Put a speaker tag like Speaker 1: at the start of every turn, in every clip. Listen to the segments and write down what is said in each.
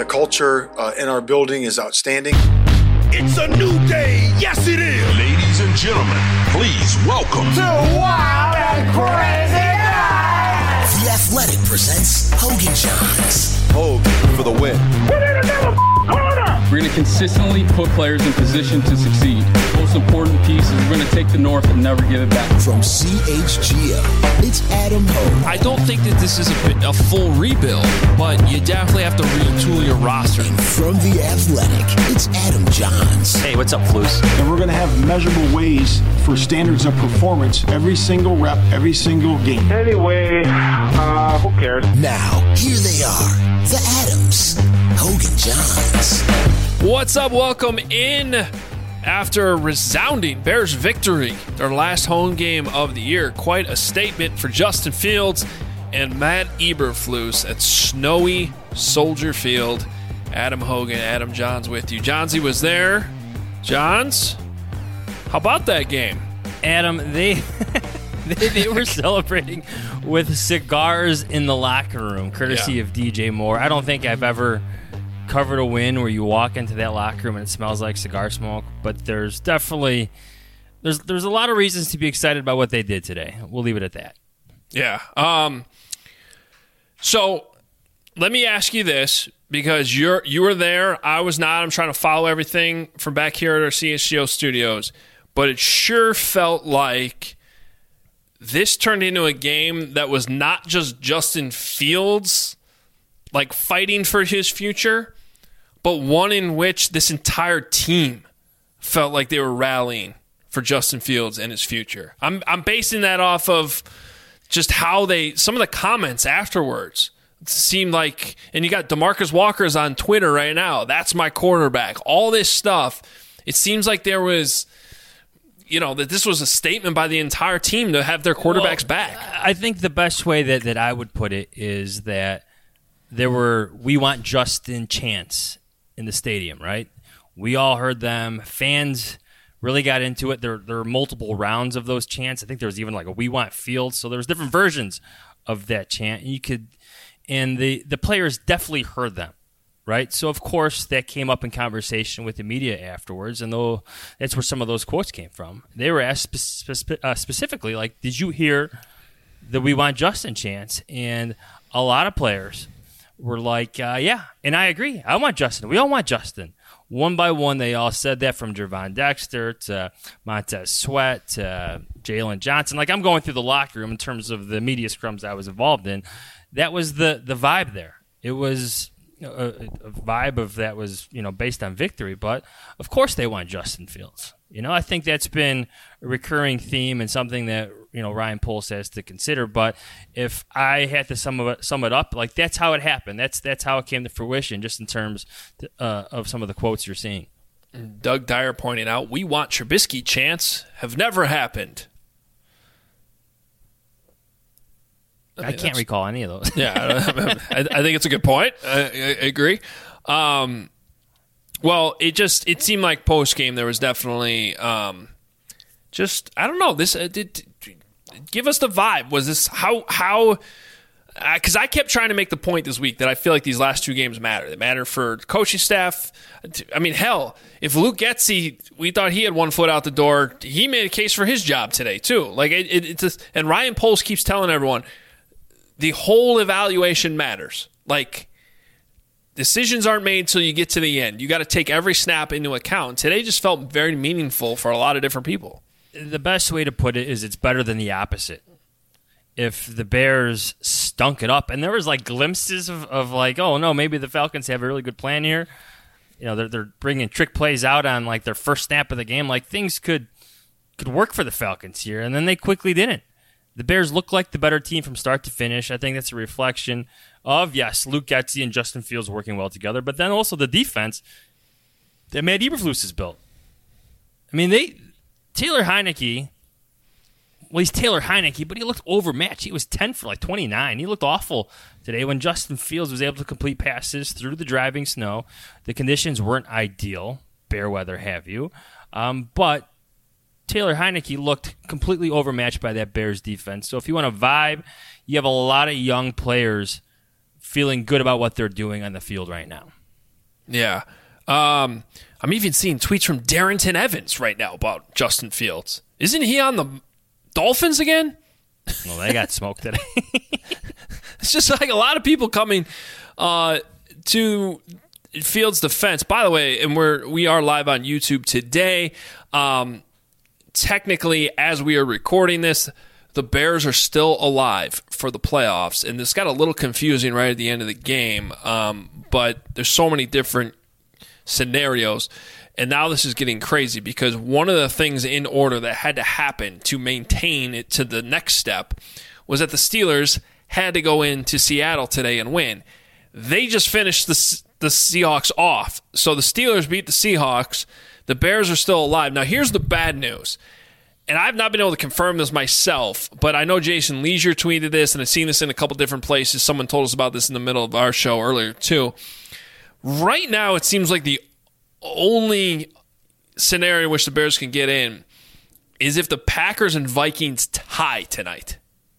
Speaker 1: The culture in our building is outstanding.
Speaker 2: It's a new day. Yes, it is.
Speaker 3: Ladies and gentlemen, please welcome
Speaker 4: to Wild and Crazy Night.
Speaker 5: The Athletic presents Hogan Johns.
Speaker 6: Hogue for the win.
Speaker 2: Put in another corner.
Speaker 7: We're going to consistently put players in position to succeed. Most important piece is we're going to take the North and never give it back.
Speaker 5: From CHGO, it's Adam Hogue.
Speaker 8: I don't think that this is a full rebuild, but you definitely have to retool your roster.
Speaker 5: And from The Athletic, it's Adam Johns.
Speaker 9: Hey, what's up, Flus?
Speaker 10: And we're going to have measurable ways for standards of performance every single rep, every single game.
Speaker 11: Anyway, who cares?
Speaker 5: Now, here they are, the Adams, Hogan Johns.
Speaker 8: What's up? Welcome in after a resounding Bears victory, their last home game of the year. Quite a statement for Justin Fields and Matt Eberflus at snowy Soldier Field. Adam Hogan, Adam Johns with you. Johnsy was there. Johns, how about that game?
Speaker 9: Adam, they were celebrating with cigars in the locker room, courtesy of DJ Moore. I don't think I've ever covered a win where you walk into that locker room and it smells like cigar smoke, but there's definitely there's a lot of reasons to be excited about what they did today. We'll leave it at that.
Speaker 8: Yeah. So let me ask you this, because you were there, I was not. I'm trying to follow everything from back here at our CHGO studios, but it sure felt like this turned into a game that was not just Justin Fields like fighting for his future, but one in which this entire team felt like they were rallying for Justin Fields and his future. I'm basing that off of just how some of the comments afterwards seemed like, and you got DeMarcus Walker's on Twitter right now, that's my quarterback, all this stuff. It seems like there was, that this was a statement by the entire team to have their quarterbacks back.
Speaker 9: I think the best way that I would put it is that we want Justin chants in the stadium, right? We all heard them. Fans really got into it. There were multiple rounds of those chants. I think there was even like a "We Want Fields," so there was different versions of that chant. And the players definitely heard them, right? So of course that came up in conversation with the media afterwards, and that's where some of those quotes came from. They were asked specifically, like, "Did you hear the 'We Want Justin' chants?" And a lot of players were like, yeah, and I agree. I want Justin. We all want Justin. One by one, they all said that, from Gervon Dexter to Montez Sweat to Jalen Johnson. Like, I'm going through the locker room in terms of the media scrums I was involved in. That was the vibe there. It was a vibe of that was, based on victory. But, of course, they want Justin Fields. I think that's been a recurring theme and something that, Ryan Poles has to consider. But if I had to sum it up, like, that's how it happened. That's how it came to fruition, just in terms of some of the quotes you're seeing.
Speaker 8: Doug Dyer pointing out, "We want Trubisky chants have never happened."
Speaker 9: I can't recall any of those.
Speaker 8: Yeah, I think it's a good point. I agree. Well, it seemed like post game there was definitely I don't know. This give us the vibe. Was this how? Because I kept trying to make the point this week that I feel like these last two games matter. They matter for the coaching staff. I mean, hell, if Luke Getsy, we thought he had one foot out the door, he made a case for his job today too. Like and Ryan Poles keeps telling everyone the whole evaluation matters. Like, decisions aren't made till you get to the end. You got to take every snap into account. Today just felt very meaningful for a lot of different people.
Speaker 9: The best way to put it is it's better than the opposite. If the Bears stunk it up, and there was like glimpses of like, oh no, maybe the Falcons have a really good plan here. They're bringing trick plays out on like their first snap of the game. Like, things could work for the Falcons here, and then they quickly didn't. The Bears look like the better team from start to finish. I think that's a reflection of, yes, Luke Getsy and Justin Fields working well together, but then also the defense that Matt Eberflus has built. I mean, Taylor Heinicke, well, he's Taylor Heinicke, but he looked overmatched. He was 10 for like 29. He looked awful today when Justin Fields was able to complete passes through the driving snow. The conditions weren't ideal, bear weather have you, but Taylor Heinicke looked completely overmatched by that Bears defense. So if you want a vibe, you have a lot of young players feeling good about what they're doing on the field right now.
Speaker 8: Yeah. I'm even seeing tweets from Darrington Evans right now about Justin Fields. Isn't he on the Dolphins again?
Speaker 9: Well, they got smoked today.
Speaker 8: It's just like a lot of people coming to Fields' defense. By the way, and we are live on YouTube today. Technically, as we are recording this, the Bears are still alive for the playoffs, and this got a little confusing right at the end of the game. But there's so many different scenarios, and now this is getting crazy because one of the things in order that had to happen to maintain it to the next step was that the Steelers had to go into Seattle today and win. They just finished the Seahawks off. So the Steelers beat the Seahawks. The Bears are still alive. Now, here's the bad news. And I've not been able to confirm this myself, but I know Jason Leisure tweeted this, and I've seen this in a couple different places. Someone told us about this in the middle of our show earlier, too. Right now, it seems like the only scenario in which the Bears can get in is if the Packers and Vikings tie tonight.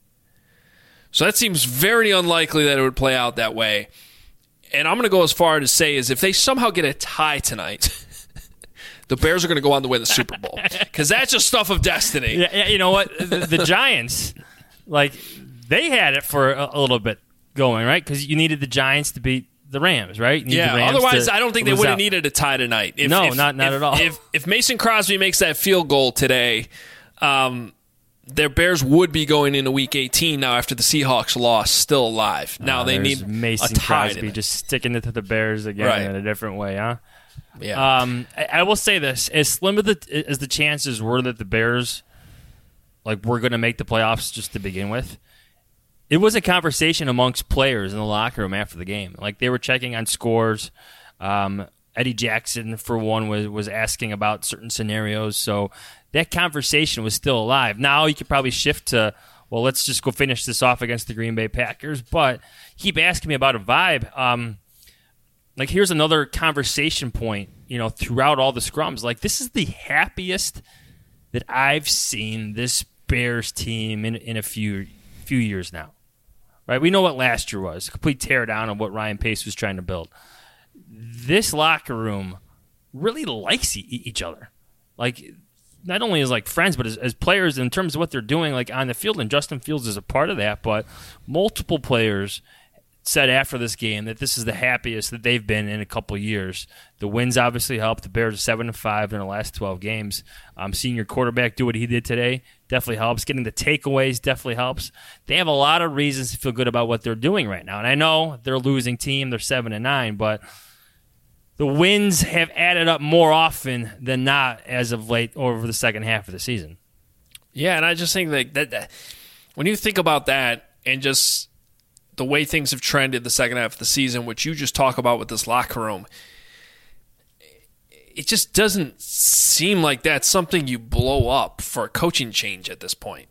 Speaker 8: So that seems very unlikely that it would play out that way. And I'm going to go as far to say is if they somehow get a tie tonight, the Bears are going to go on to win the Super Bowl. Because that's just stuff of destiny.
Speaker 9: Yeah, you know what? The Giants, they had it for a little bit going, right? Because you needed the Giants to beat the Rams, right?
Speaker 8: Otherwise, I don't think they would have needed a tie tonight.
Speaker 9: Not at all.
Speaker 8: If Mason Crosby makes that field goal today, their Bears would be going into Week 18 now after the Seahawks lost, still alive. Now they need
Speaker 9: Mason
Speaker 8: a tie
Speaker 9: Crosby just sticking it to the Bears again in a different way, huh?
Speaker 8: Yeah.
Speaker 9: I will say this: as slim as the chances were that the Bears were going to make the playoffs just to begin with, it was a conversation amongst players in the locker room after the game. They were checking on scores. Eddie Jackson, for one, was asking about certain scenarios. So that conversation was still alive. Now you could probably shift to, well, let's just go finish this off against the Green Bay Packers. But keep asking me about a vibe. Here's another conversation point, throughout all the scrums. This is the happiest that I've seen this Bears team in a few years now. Right? We know what last year was, a complete teardown of what Ryan Pace was trying to build. This locker room really likes each other. Not only as friends, but as players in terms of what they're doing on the field, and Justin Fields is a part of that, but multiple players said after this game that this is the happiest that they've been in a couple years. The wins obviously helped. The Bears are 7-5 in the last 12 games. Seeing your quarterback do what he did today definitely helps. Getting the takeaways definitely helps. They have a lot of reasons to feel good about what they're doing right now. And I know they're a losing team. They're 7-9, but the wins have added up more often than not as of late over the second half of the season.
Speaker 8: Yeah, and I just think that when you think about that and just the way things have trended the second half of the season, which you just talk about with this locker room, it just doesn't seem like that's something you blow up for a coaching change at this point.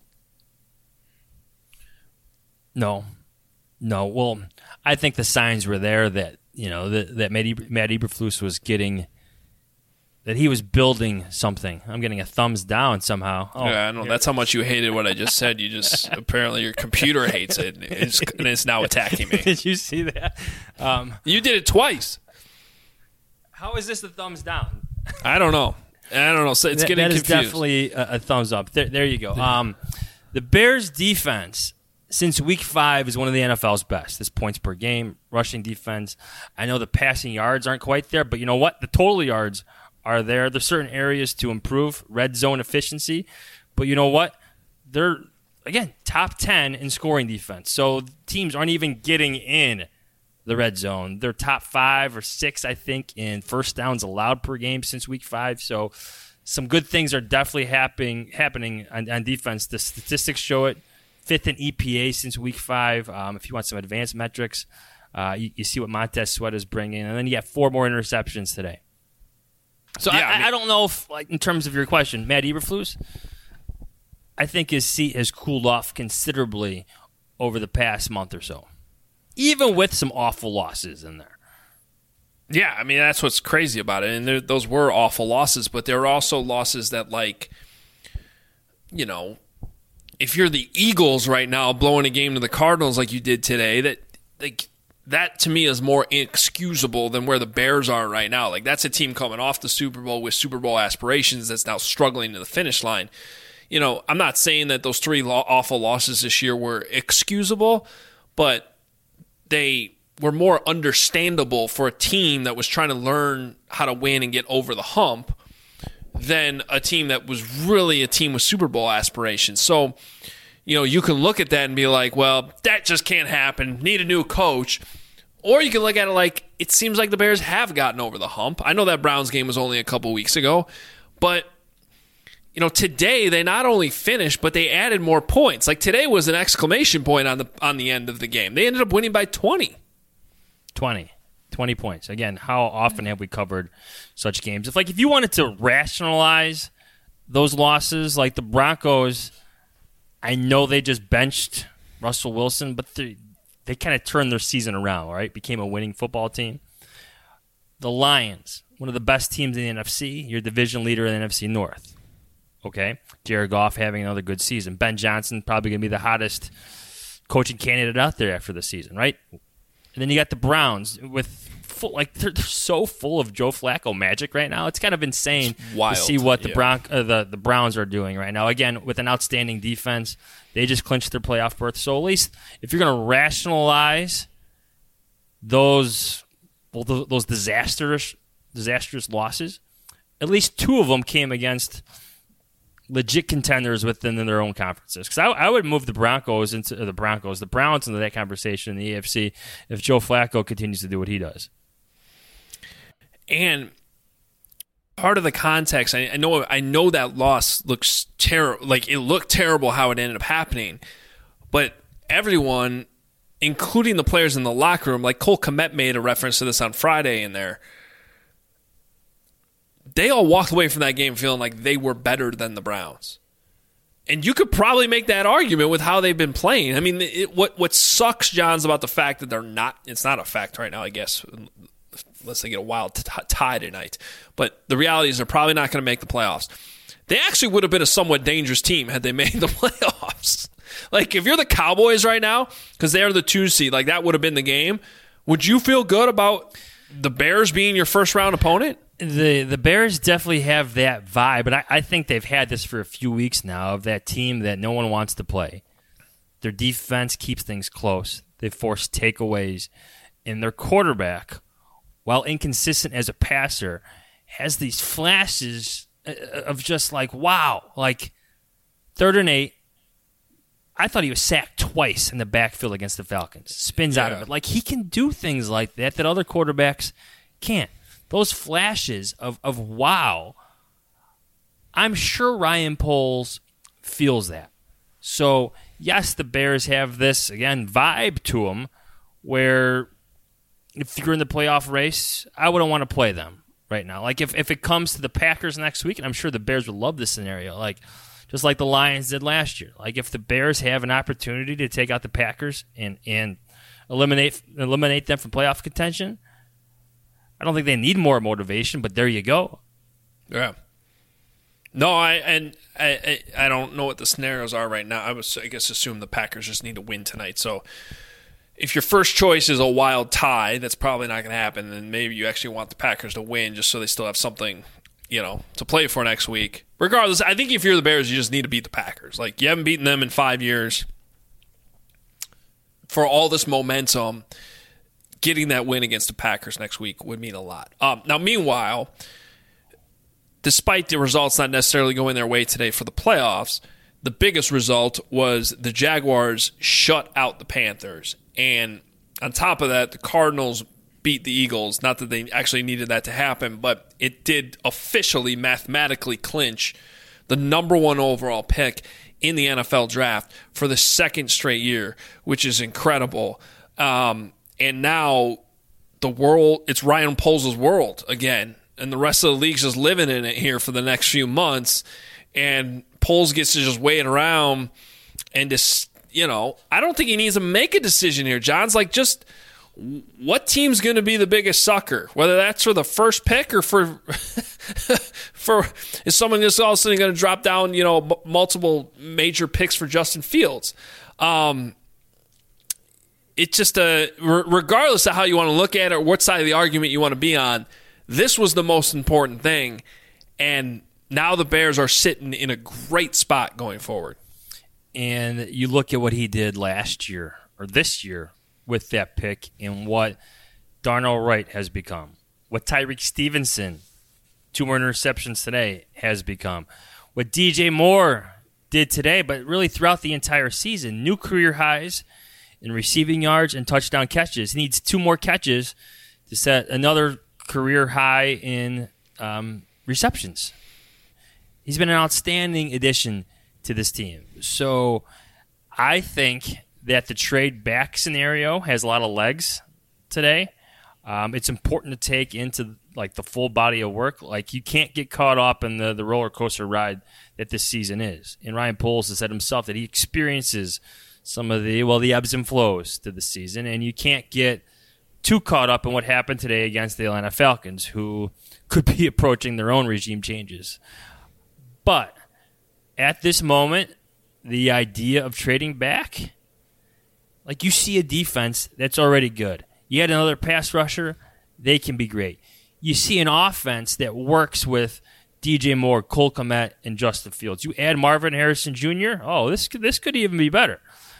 Speaker 9: No. Well, I think the signs were there that that Matt Eberflus was getting, that he was building something. I'm getting a thumbs down somehow.
Speaker 8: Yeah, I know. That's how much you hated what I just said. You just apparently your computer hates it, and it's now attacking me.
Speaker 9: Did you see that?
Speaker 8: You did it twice.
Speaker 9: How is this a thumbs down?
Speaker 8: I don't know. So it's getting confused.
Speaker 9: That is definitely a thumbs up. There you go. The Bears' defense since Week 5 is one of the NFL's best. This points per game, rushing defense. I know the passing yards aren't quite there, but you know what? The total yards are there. There's certain areas to improve, red zone efficiency. But you know what? They're, again, top 10 in scoring defense. So teams aren't even getting in the red zone. They're top 5 or 6, I think, in first downs allowed per game since Week 5. So some good things are definitely happening on defense. The statistics show it. 5th in EPA since Week 5. If you want some advanced metrics, you see what Montez Sweat is bringing. And then you have 4 more interceptions today. So yeah, I don't know if, in terms of your question, Matt Eberflus, I think his seat has cooled off considerably over the past month or so, even with some awful losses in there.
Speaker 8: Yeah, I mean, that's what's crazy about it. And those were awful losses, but there are also losses that, if you're the Eagles right now blowing a game to the Cardinals like you did today, that that to me is more inexcusable than where the Bears are right now. Like, that's a team coming off the Super Bowl with Super Bowl aspirations that's now struggling to the finish line. You know, I'm not saying that those 3 awful losses this year were excusable, but they were more understandable for a team that was trying to learn how to win and get over the hump than a team that was really a team with Super Bowl aspirations. So, you know, you can look at that and be like, well, that just can't happen. Need a new coach. Or you can look at it like, it seems like the Bears have gotten over the hump. I know that Browns game was only a couple weeks ago, but, you know, today they not only finished, but they added more points. Like, today was an exclamation point on the end of the game. They ended up winning by 20.
Speaker 9: 20 points. Again, how often have we covered such games? If you wanted to rationalize those losses, like the Broncos, I know they just benched Russell Wilson, but they kind of turned their season around, right? Became a winning football team. The Lions, one of the best teams in the NFC, your division leader in the NFC North. Okay? Jared Goff having another good season. Ben Johnson probably going to be the hottest coaching candidate out there after the season, right? And then you got the Browns with they're so full of Joe Flacco magic right now. It's kind of insane to see what the Browns are doing right now. Again, with an outstanding defense, they just clinched their playoff berth. So at least if you're going to rationalize those disastrous losses, at least 2 of them came against legit contenders within their own conferences. Because I would move the Browns into that conversation in the AFC if Joe Flacco continues to do what he does.
Speaker 8: And part of the context, I know that loss looks terrible. Like, it looked terrible how it ended up happening, but everyone, including the players in the locker room, like Cole Kmet made a reference to this on Friday in there. They all walked away from that game feeling like they were better than the Browns. And you could probably make that argument with how they've been playing. I mean, what sucks, John's, about the fact that they're not – it's not a fact right now, I guess, unless they get a wild tie tonight. But the reality is they're probably not going to make the playoffs. They actually would have been a somewhat dangerous team had they made the playoffs. Like, if you're the Cowboys right now, because they're the 2 seed, like that would have been the game, would you feel good about the Bears being your first-round opponent?
Speaker 9: The Bears definitely have that vibe, but I think they've had this for a few weeks now, of that team that no one wants to play. Their defense keeps things close. They force takeaways. And their quarterback, while inconsistent as a passer, has these flashes of just like, wow. Like, 3rd and 8, I thought he was sacked twice in the backfield against the Falcons. Spins out of it. Like, he can do things like that other quarterbacks can't. Those flashes of wow, I'm sure Ryan Poles feels that. So, yes, the Bears have this, again, vibe to them where if you're in the playoff race, I wouldn't want to play them right now. Like, if it comes to the Packers next week, and I'm sure the Bears would love this scenario, like just like the Lions did last year. Like, if the Bears have an opportunity to take out the Packers and eliminate them from playoff contention, I don't think they need more motivation, but there you go.
Speaker 8: Yeah. No, I don't know what the scenarios are right now. I guess assume the Packers just need to win tonight. So if your first choice is a wild tie, that's probably not going to happen. And maybe you actually want the Packers to win just so they still have something, to play for next week. Regardless, I think if you're the Bears, you just need to beat the Packers. Like, you haven't beaten them in 5 years. For all this momentum, getting that win against the Packers next week would mean a lot. Now, meanwhile, despite the results not necessarily going their way today for the playoffs, the biggest result was the Jaguars shut out the Panthers. And on top of that, the Cardinals beat the Eagles. Not that they actually needed that to happen, but it did officially, mathematically clinch the number 1 overall pick in the NFL draft for the 2nd straight year, which is incredible. And now it's Ryan Poles' world again. And the rest of the league's just living in it here for the next few months. And Poles gets to just wait around and just, I don't think he needs to make a decision here. John's like, just what team's going to be the biggest sucker? Whether that's for the first pick or for is someone just all of a sudden going to drop down, multiple major picks for Justin Fields? it's just regardless of how you want to look at it or what side of the argument you want to be on, this was the most important thing. And now the Bears are sitting in a great spot going forward.
Speaker 9: And you look at what he did last year or this year with that pick and what Darnell Wright has become, what Tyreek Stevenson, 2 more interceptions today, has become, what DJ Moore did today, but really throughout the entire season. New career highs in receiving yards and touchdown catches. He needs 2 more catches to set another career high in receptions. He's been an outstanding addition to this team. So I think that the trade back scenario has a lot of legs today. It's important to take into like the full body of work. Like, you can't get caught up in the roller coaster ride that this season is. And Ryan Poles has said himself that he experiences some of the ebbs and flows to the season, and you can't get too caught up in what happened today against the Atlanta Falcons, who could be approaching their own regime changes. But at this moment, the idea of trading back, like, you see a defense that's already good. You add another pass rusher, they can be great. You see an offense that works with DJ Moore, Cole Kmet, and Justin Fields. You add Marvin Harrison Jr., this could even be better.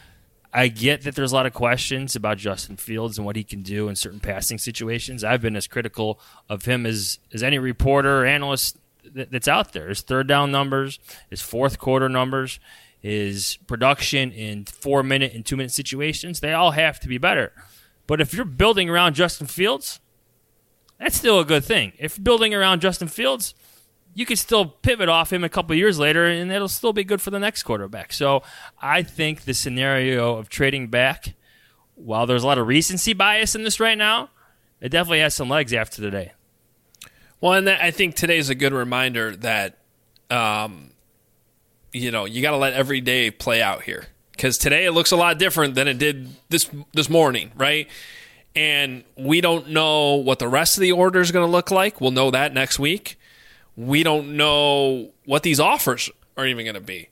Speaker 9: I get that there's a lot of questions about Justin Fields and what he can do in certain passing situations. I've been as critical of him as any reporter or analyst that's out there. His third down numbers, his fourth quarter numbers, his production in 4-minute and 2-minute situations, they all have to be better. But if you're building around Justin Fields, that's still a good thing. If you're building around Justin Fields, you can still pivot off him a couple of years later, and it'll still be good for the next quarterback. So I think the scenario of trading back, while there's a lot of recency bias in this right now, it definitely has some legs after today.
Speaker 8: Well, and I think today's a good reminder that, you got to let every day play out here. Because today it looks a lot different than it did this morning, right? And we don't know what the rest of the order is going to look like. We'll know that next week. We don't know what these offers are even going to be,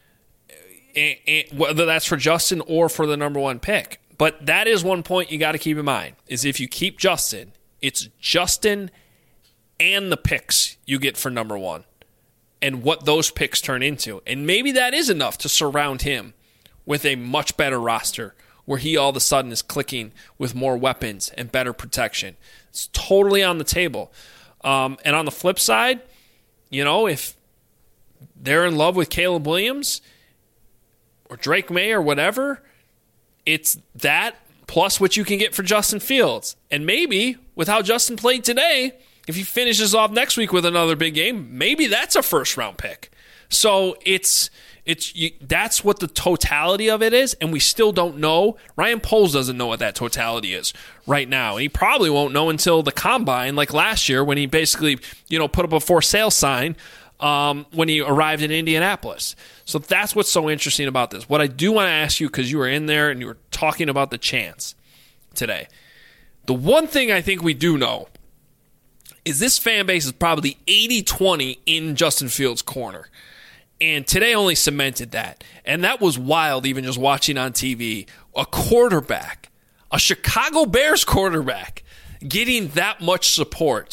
Speaker 8: and whether that's for Justin or for the number 1 pick. But that is one point you got to keep in mind, is if you keep Justin, it's Justin and the picks you get for number 1 and what those picks turn into. And maybe that is enough to surround him with a much better roster where he all of a sudden is clicking with more weapons and better protection. It's totally on the table. And on the flip side, if they're in love with Caleb Williams or Drake May or whatever, it's that plus what you can get for Justin Fields. And maybe with how Justin played today, if he finishes off next week with another big game, maybe that's a first-round pick. So that's what the totality of it is, and we still don't know. Ryan Poles doesn't know what that totality is right now, and he probably won't know until the combine, like last year when he basically put up a for sale sign when he arrived in Indianapolis. So that's what's so interesting about this. What I do want to ask you, because you were in there and you were talking about the chance today, the one thing I think we do know is this fan base is probably 80-20 in Justin Fields' corner. And today only cemented that. And that was wild, even just watching on TV. A quarterback, a Chicago Bears quarterback, getting that much support.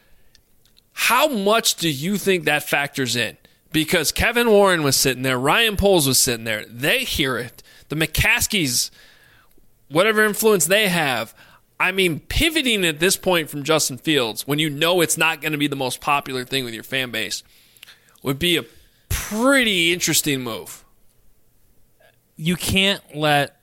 Speaker 8: How much do you think that factors in? Because Kevin Warren was sitting there, Ryan Poles was sitting there. They hear it. The McCaskies, whatever influence they have, pivoting at this point from Justin Fields, when you know it's not going to be the most popular thing with your fan base, would be a pretty interesting move.
Speaker 9: You can't let,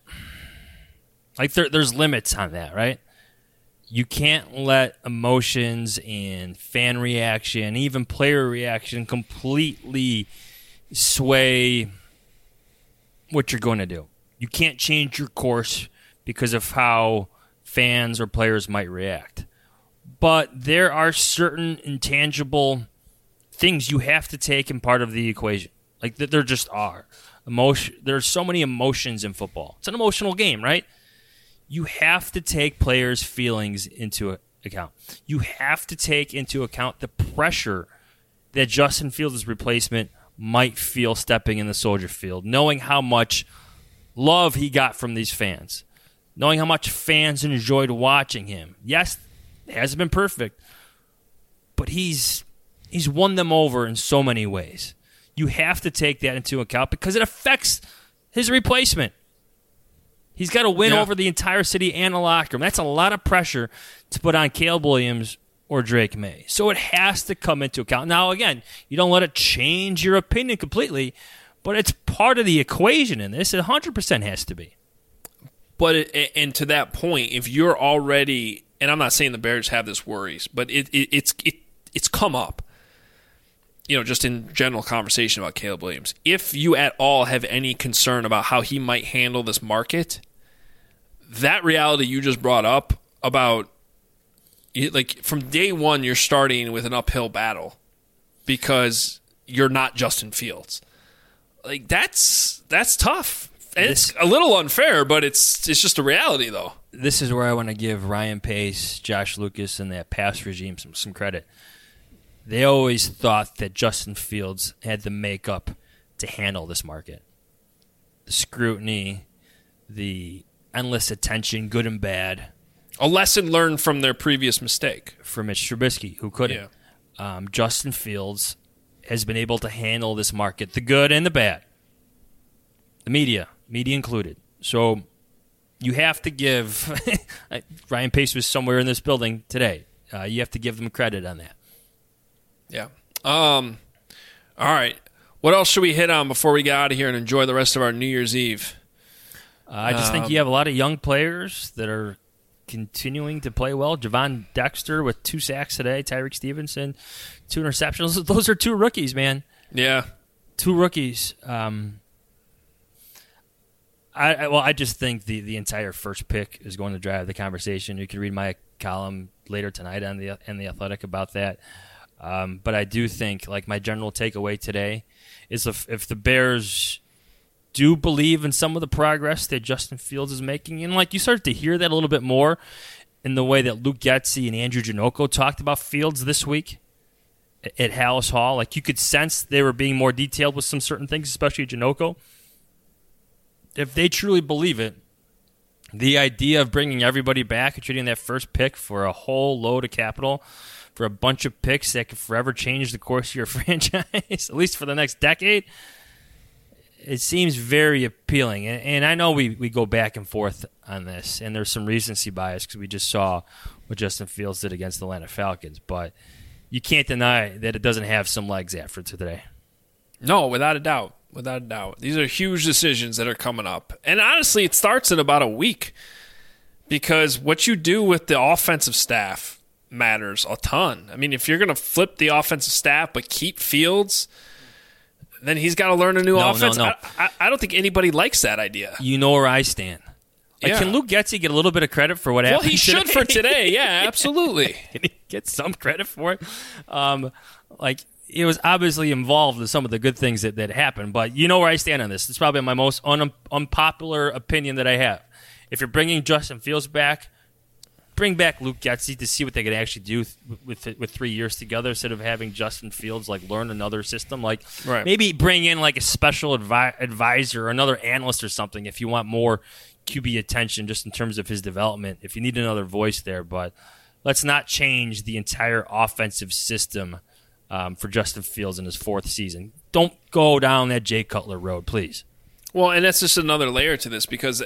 Speaker 9: there's limits on that, right? You can't let emotions and fan reaction, even player reaction, completely sway what you're going to do. You can't change your course because of how fans or players might react. But there are certain intangible things you have to take in part of the equation. There just are. There's so many emotions in football. It's an emotional game, right? You have to take players' feelings into account. You have to take into account the pressure that Justin Fields' replacement might feel stepping in the Soldier Field, knowing how much love he got from these fans. knowing how much fans enjoyed watching him. Yes, it hasn't been perfect, but he's won them over in so many ways. You have to take that into account because it affects his replacement. He's got to win over the entire city and the locker room. That's a lot of pressure to put on Caleb Williams or Drake May. So it has to come into account. Now, again, you don't let it change your opinion completely, but it's part of the equation in this. It 100% has to be.
Speaker 8: But and to that point, if you're already, and I'm not saying the Bears have this worries, but it's come up, just in general conversation about Caleb Williams. If you at all have any concern about how he might handle this market, that reality you just brought up about, like, from day one, you're starting with an uphill battle because you're not Justin Fields. Like, that's tough. And it's a little unfair, but it's just a reality, though.
Speaker 9: This is where I want to give Ryan Pace, Josh Lucas, and that pass regime some credit. They always thought that Justin Fields had the makeup to handle this market. The scrutiny, the endless attention, good and bad.
Speaker 8: A lesson learned from their previous mistake.
Speaker 9: For Mitch Trubisky, who couldn't. Yeah. Justin Fields has been able to handle this market, the good and the bad. The media included. So you have to give Ryan Pace was somewhere in this building today. You have to give them credit on that.
Speaker 8: Yeah. All right. What else should we hit on before we get out of here and enjoy the rest of our New Year's Eve?
Speaker 9: I just think you have a lot of young players that are continuing to play well. Javon Dexter with 2 sacks today. Tyreek Stevenson, 2 interceptions. Those are 2 rookies, man.
Speaker 8: Yeah.
Speaker 9: 2 rookies. I just think the entire first pick is going to drive the conversation. You can read my column later tonight on the Athletic about that. But I do think, like, my general takeaway today is if the Bears do believe in some of the progress that Justin Fields is making, and like you started to hear that a little bit more in the way that Luke Getsy and Andrew Janocko talked about Fields this week at Hallis Hall. Like, you could sense they were being more detailed with some certain things, especially Janocko. If they truly believe it, the idea of bringing everybody back and trading that first pick for a whole load of capital for a bunch of picks that could forever change the course of your franchise, at least for the next decade, it seems very appealing. And I know we go back and forth on this, and there's some recency bias because we just saw what Justin Fields did against the Atlanta Falcons, but you can't deny that it doesn't have some legs after today.
Speaker 8: No, without a doubt. Without a doubt. These are huge decisions that are coming up. And honestly, it starts in about a week because what you do with the offensive staff matters a ton. I mean, if you're going to flip the offensive staff but keep Fields, then he's got to learn a new offense.
Speaker 9: No.
Speaker 8: I don't think anybody likes that idea.
Speaker 9: You know where I stand. Like, can Luke Getsy get a little bit of credit for what happened
Speaker 8: today? Well, he should for today. Yeah, absolutely.
Speaker 9: Can he get some credit for it? He was obviously involved in some of the good things that happened, but you know where I stand on this. It's probably my most unpopular opinion that I have. If you're bringing Justin Fields back, bring back Luke Getsy to see what they can actually do with 3 years together instead of having Justin Fields learn another system. Maybe bring in a special advisor or another analyst or something if you want more QB attention just in terms of his development, if you need another voice there. But let's not change the entire offensive system for Justin Fields in his 4th season. Don't go down that Jay Cutler road, please.
Speaker 8: Well, and that's just another layer to this because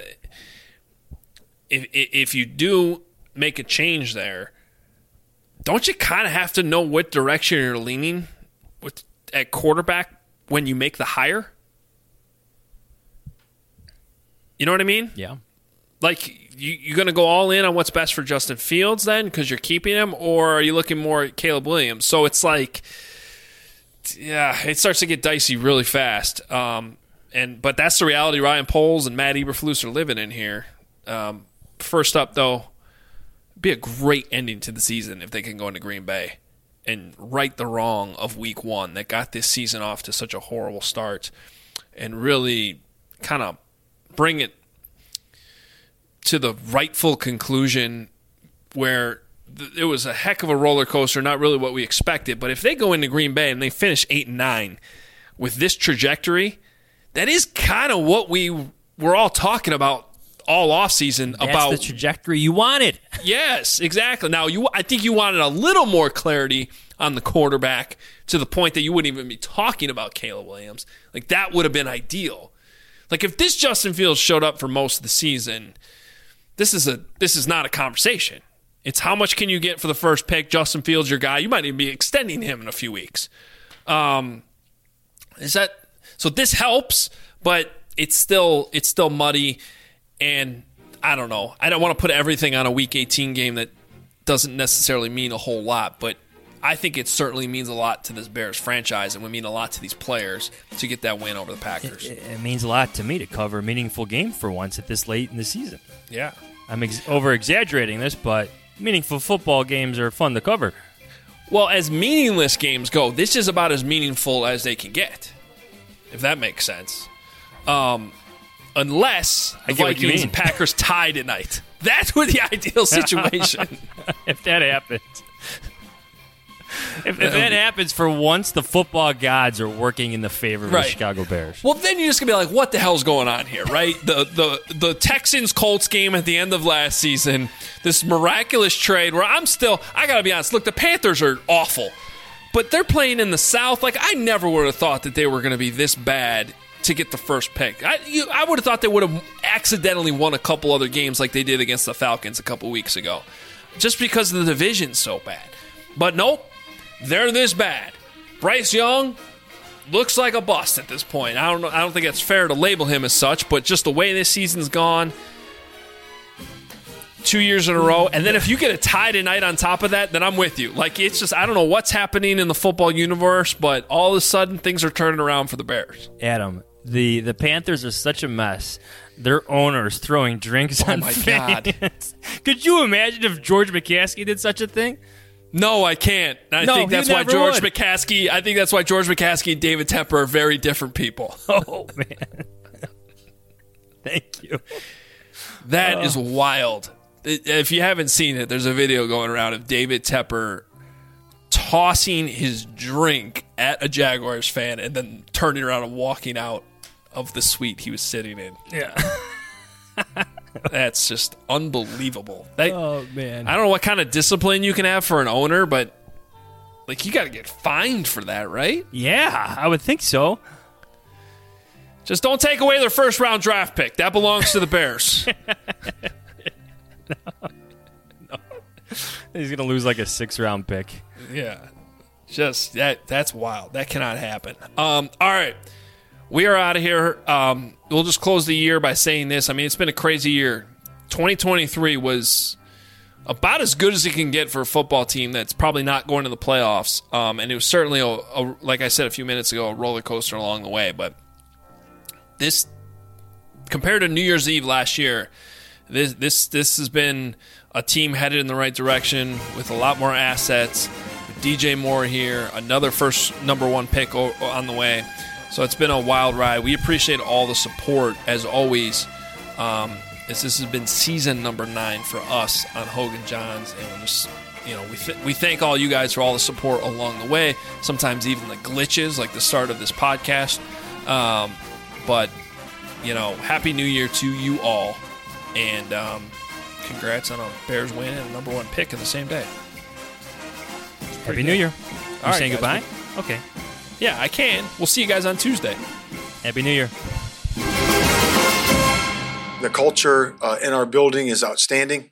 Speaker 8: if you do make a change there, don't you kind of have to know what direction you're leaning at quarterback when you make the hire? You know what I mean?
Speaker 9: Yeah.
Speaker 8: You're going to go all in on what's best for Justin Fields then because you're keeping him, or are you looking more at Caleb Williams? So it's it starts to get dicey really fast. But that's the reality Ryan Poles and Matt Eberflus are living in here. First up, though, it'd be a great ending to the season if they can go into Green Bay and right the wrong of week 1 that got this season off to such a horrible start and really kind of bring it to the rightful conclusion where it was a heck of a roller coaster, not really what we expected. But if they go into Green Bay and they finish 8-9 with this trajectory, that is kind of what we were all talking about all offseason
Speaker 9: That's
Speaker 8: about
Speaker 9: the trajectory you wanted.
Speaker 8: Yes, exactly. Now, I think you wanted a little more clarity on the quarterback to the point that you wouldn't even be talking about Caleb Williams. Like, that would have been ideal. Like, if this Justin Fields showed up for most of the season, this is not a conversation. It's how much can you get for the first pick? Justin Fields, your guy. You might even be extending him in a few weeks. So this helps, but it's still muddy, and I don't know. I don't want to put everything on a Week 18 game that doesn't necessarily mean a whole lot, but I think it certainly means a lot to this Bears franchise and would mean a lot to these players to get that win over the Packers.
Speaker 9: It means a lot to me to cover a meaningful game for once at this late in the season.
Speaker 8: Yeah.
Speaker 9: I'm over-exaggerating this, but meaningful football games are fun to cover.
Speaker 8: Well, as meaningless games go, this is about as meaningful as they can get, if that makes sense. Unless the Vikings and Packers tie tonight. That would be the ideal situation.
Speaker 9: If that happens. If that happens, for once, the football gods are working in the favor of the Chicago Bears.
Speaker 8: Well, then you're just going to be like, what the hell's going on here, right? The Texans-Colts game at the end of last season, this miraculous trade where I got to be honest, look, the Panthers are awful, but they're playing in the South. Like, I never would have thought that they were going to be this bad to get the first pick. I would have thought they would have accidentally won a couple other games like they did against the Falcons a couple weeks ago, just because the division's so bad. But nope. They're this bad. Bryce Young looks like a bust at this point. I don't think it's fair to label him as such, but just the way this season's gone, 2 years in a row, and then if you get a tie tonight on top of that, then I'm with you. Like, it's just, I don't know what's happening in the football universe, but all of a sudden things are turning around for the Bears.
Speaker 9: Adam, the Panthers are such a mess. Their owners throwing drinks on fans. God. Could you imagine if George McCaskey did such a thing?
Speaker 8: No, I can't. I think that's why George McCaskey and David Tepper are very different people.
Speaker 9: Oh, man. Thank you.
Speaker 8: That is wild. If you haven't seen it, there's a video going around of David Tepper tossing his drink at a Jaguars fan and then turning around and walking out of the suite he was sitting in.
Speaker 9: Yeah.
Speaker 8: That's just unbelievable.
Speaker 9: Oh, man.
Speaker 8: I don't know what kind of discipline you can have for an owner, but like, you got to get fined for that, right?
Speaker 9: Yeah, I would think so.
Speaker 8: Just don't take away their first-round draft pick. That belongs to the Bears.
Speaker 9: No. He's going to lose like a 6th-round pick.
Speaker 8: Yeah. Just, that's wild. That cannot happen. All right. We are out of here. We'll just close the year by saying this. I mean, it's been a crazy year. 2023 was about as good as it can get for a football team that's probably not going to the playoffs. And it was certainly, like I said a few minutes ago, a roller coaster along the way. But this, compared to New Year's Eve last year, this has been a team headed in the right direction with a lot more assets. With DJ Moore here, another first number 1 pick on the way. So it's been a wild ride. We appreciate all the support, as always. This has been season number 9 for us on Hogan Johns. And just, we thank all you guys for all the support along the way. Sometimes even the glitches, like the start of this podcast. But, Happy New Year to you all. And congrats on a Bears win and a number 1 pick in the same day.
Speaker 9: Happy New Year. You saying goodbye? Okay.
Speaker 8: Yeah, I can. We'll see you guys on Tuesday.
Speaker 9: Happy New Year.
Speaker 1: The culture in our building is outstanding.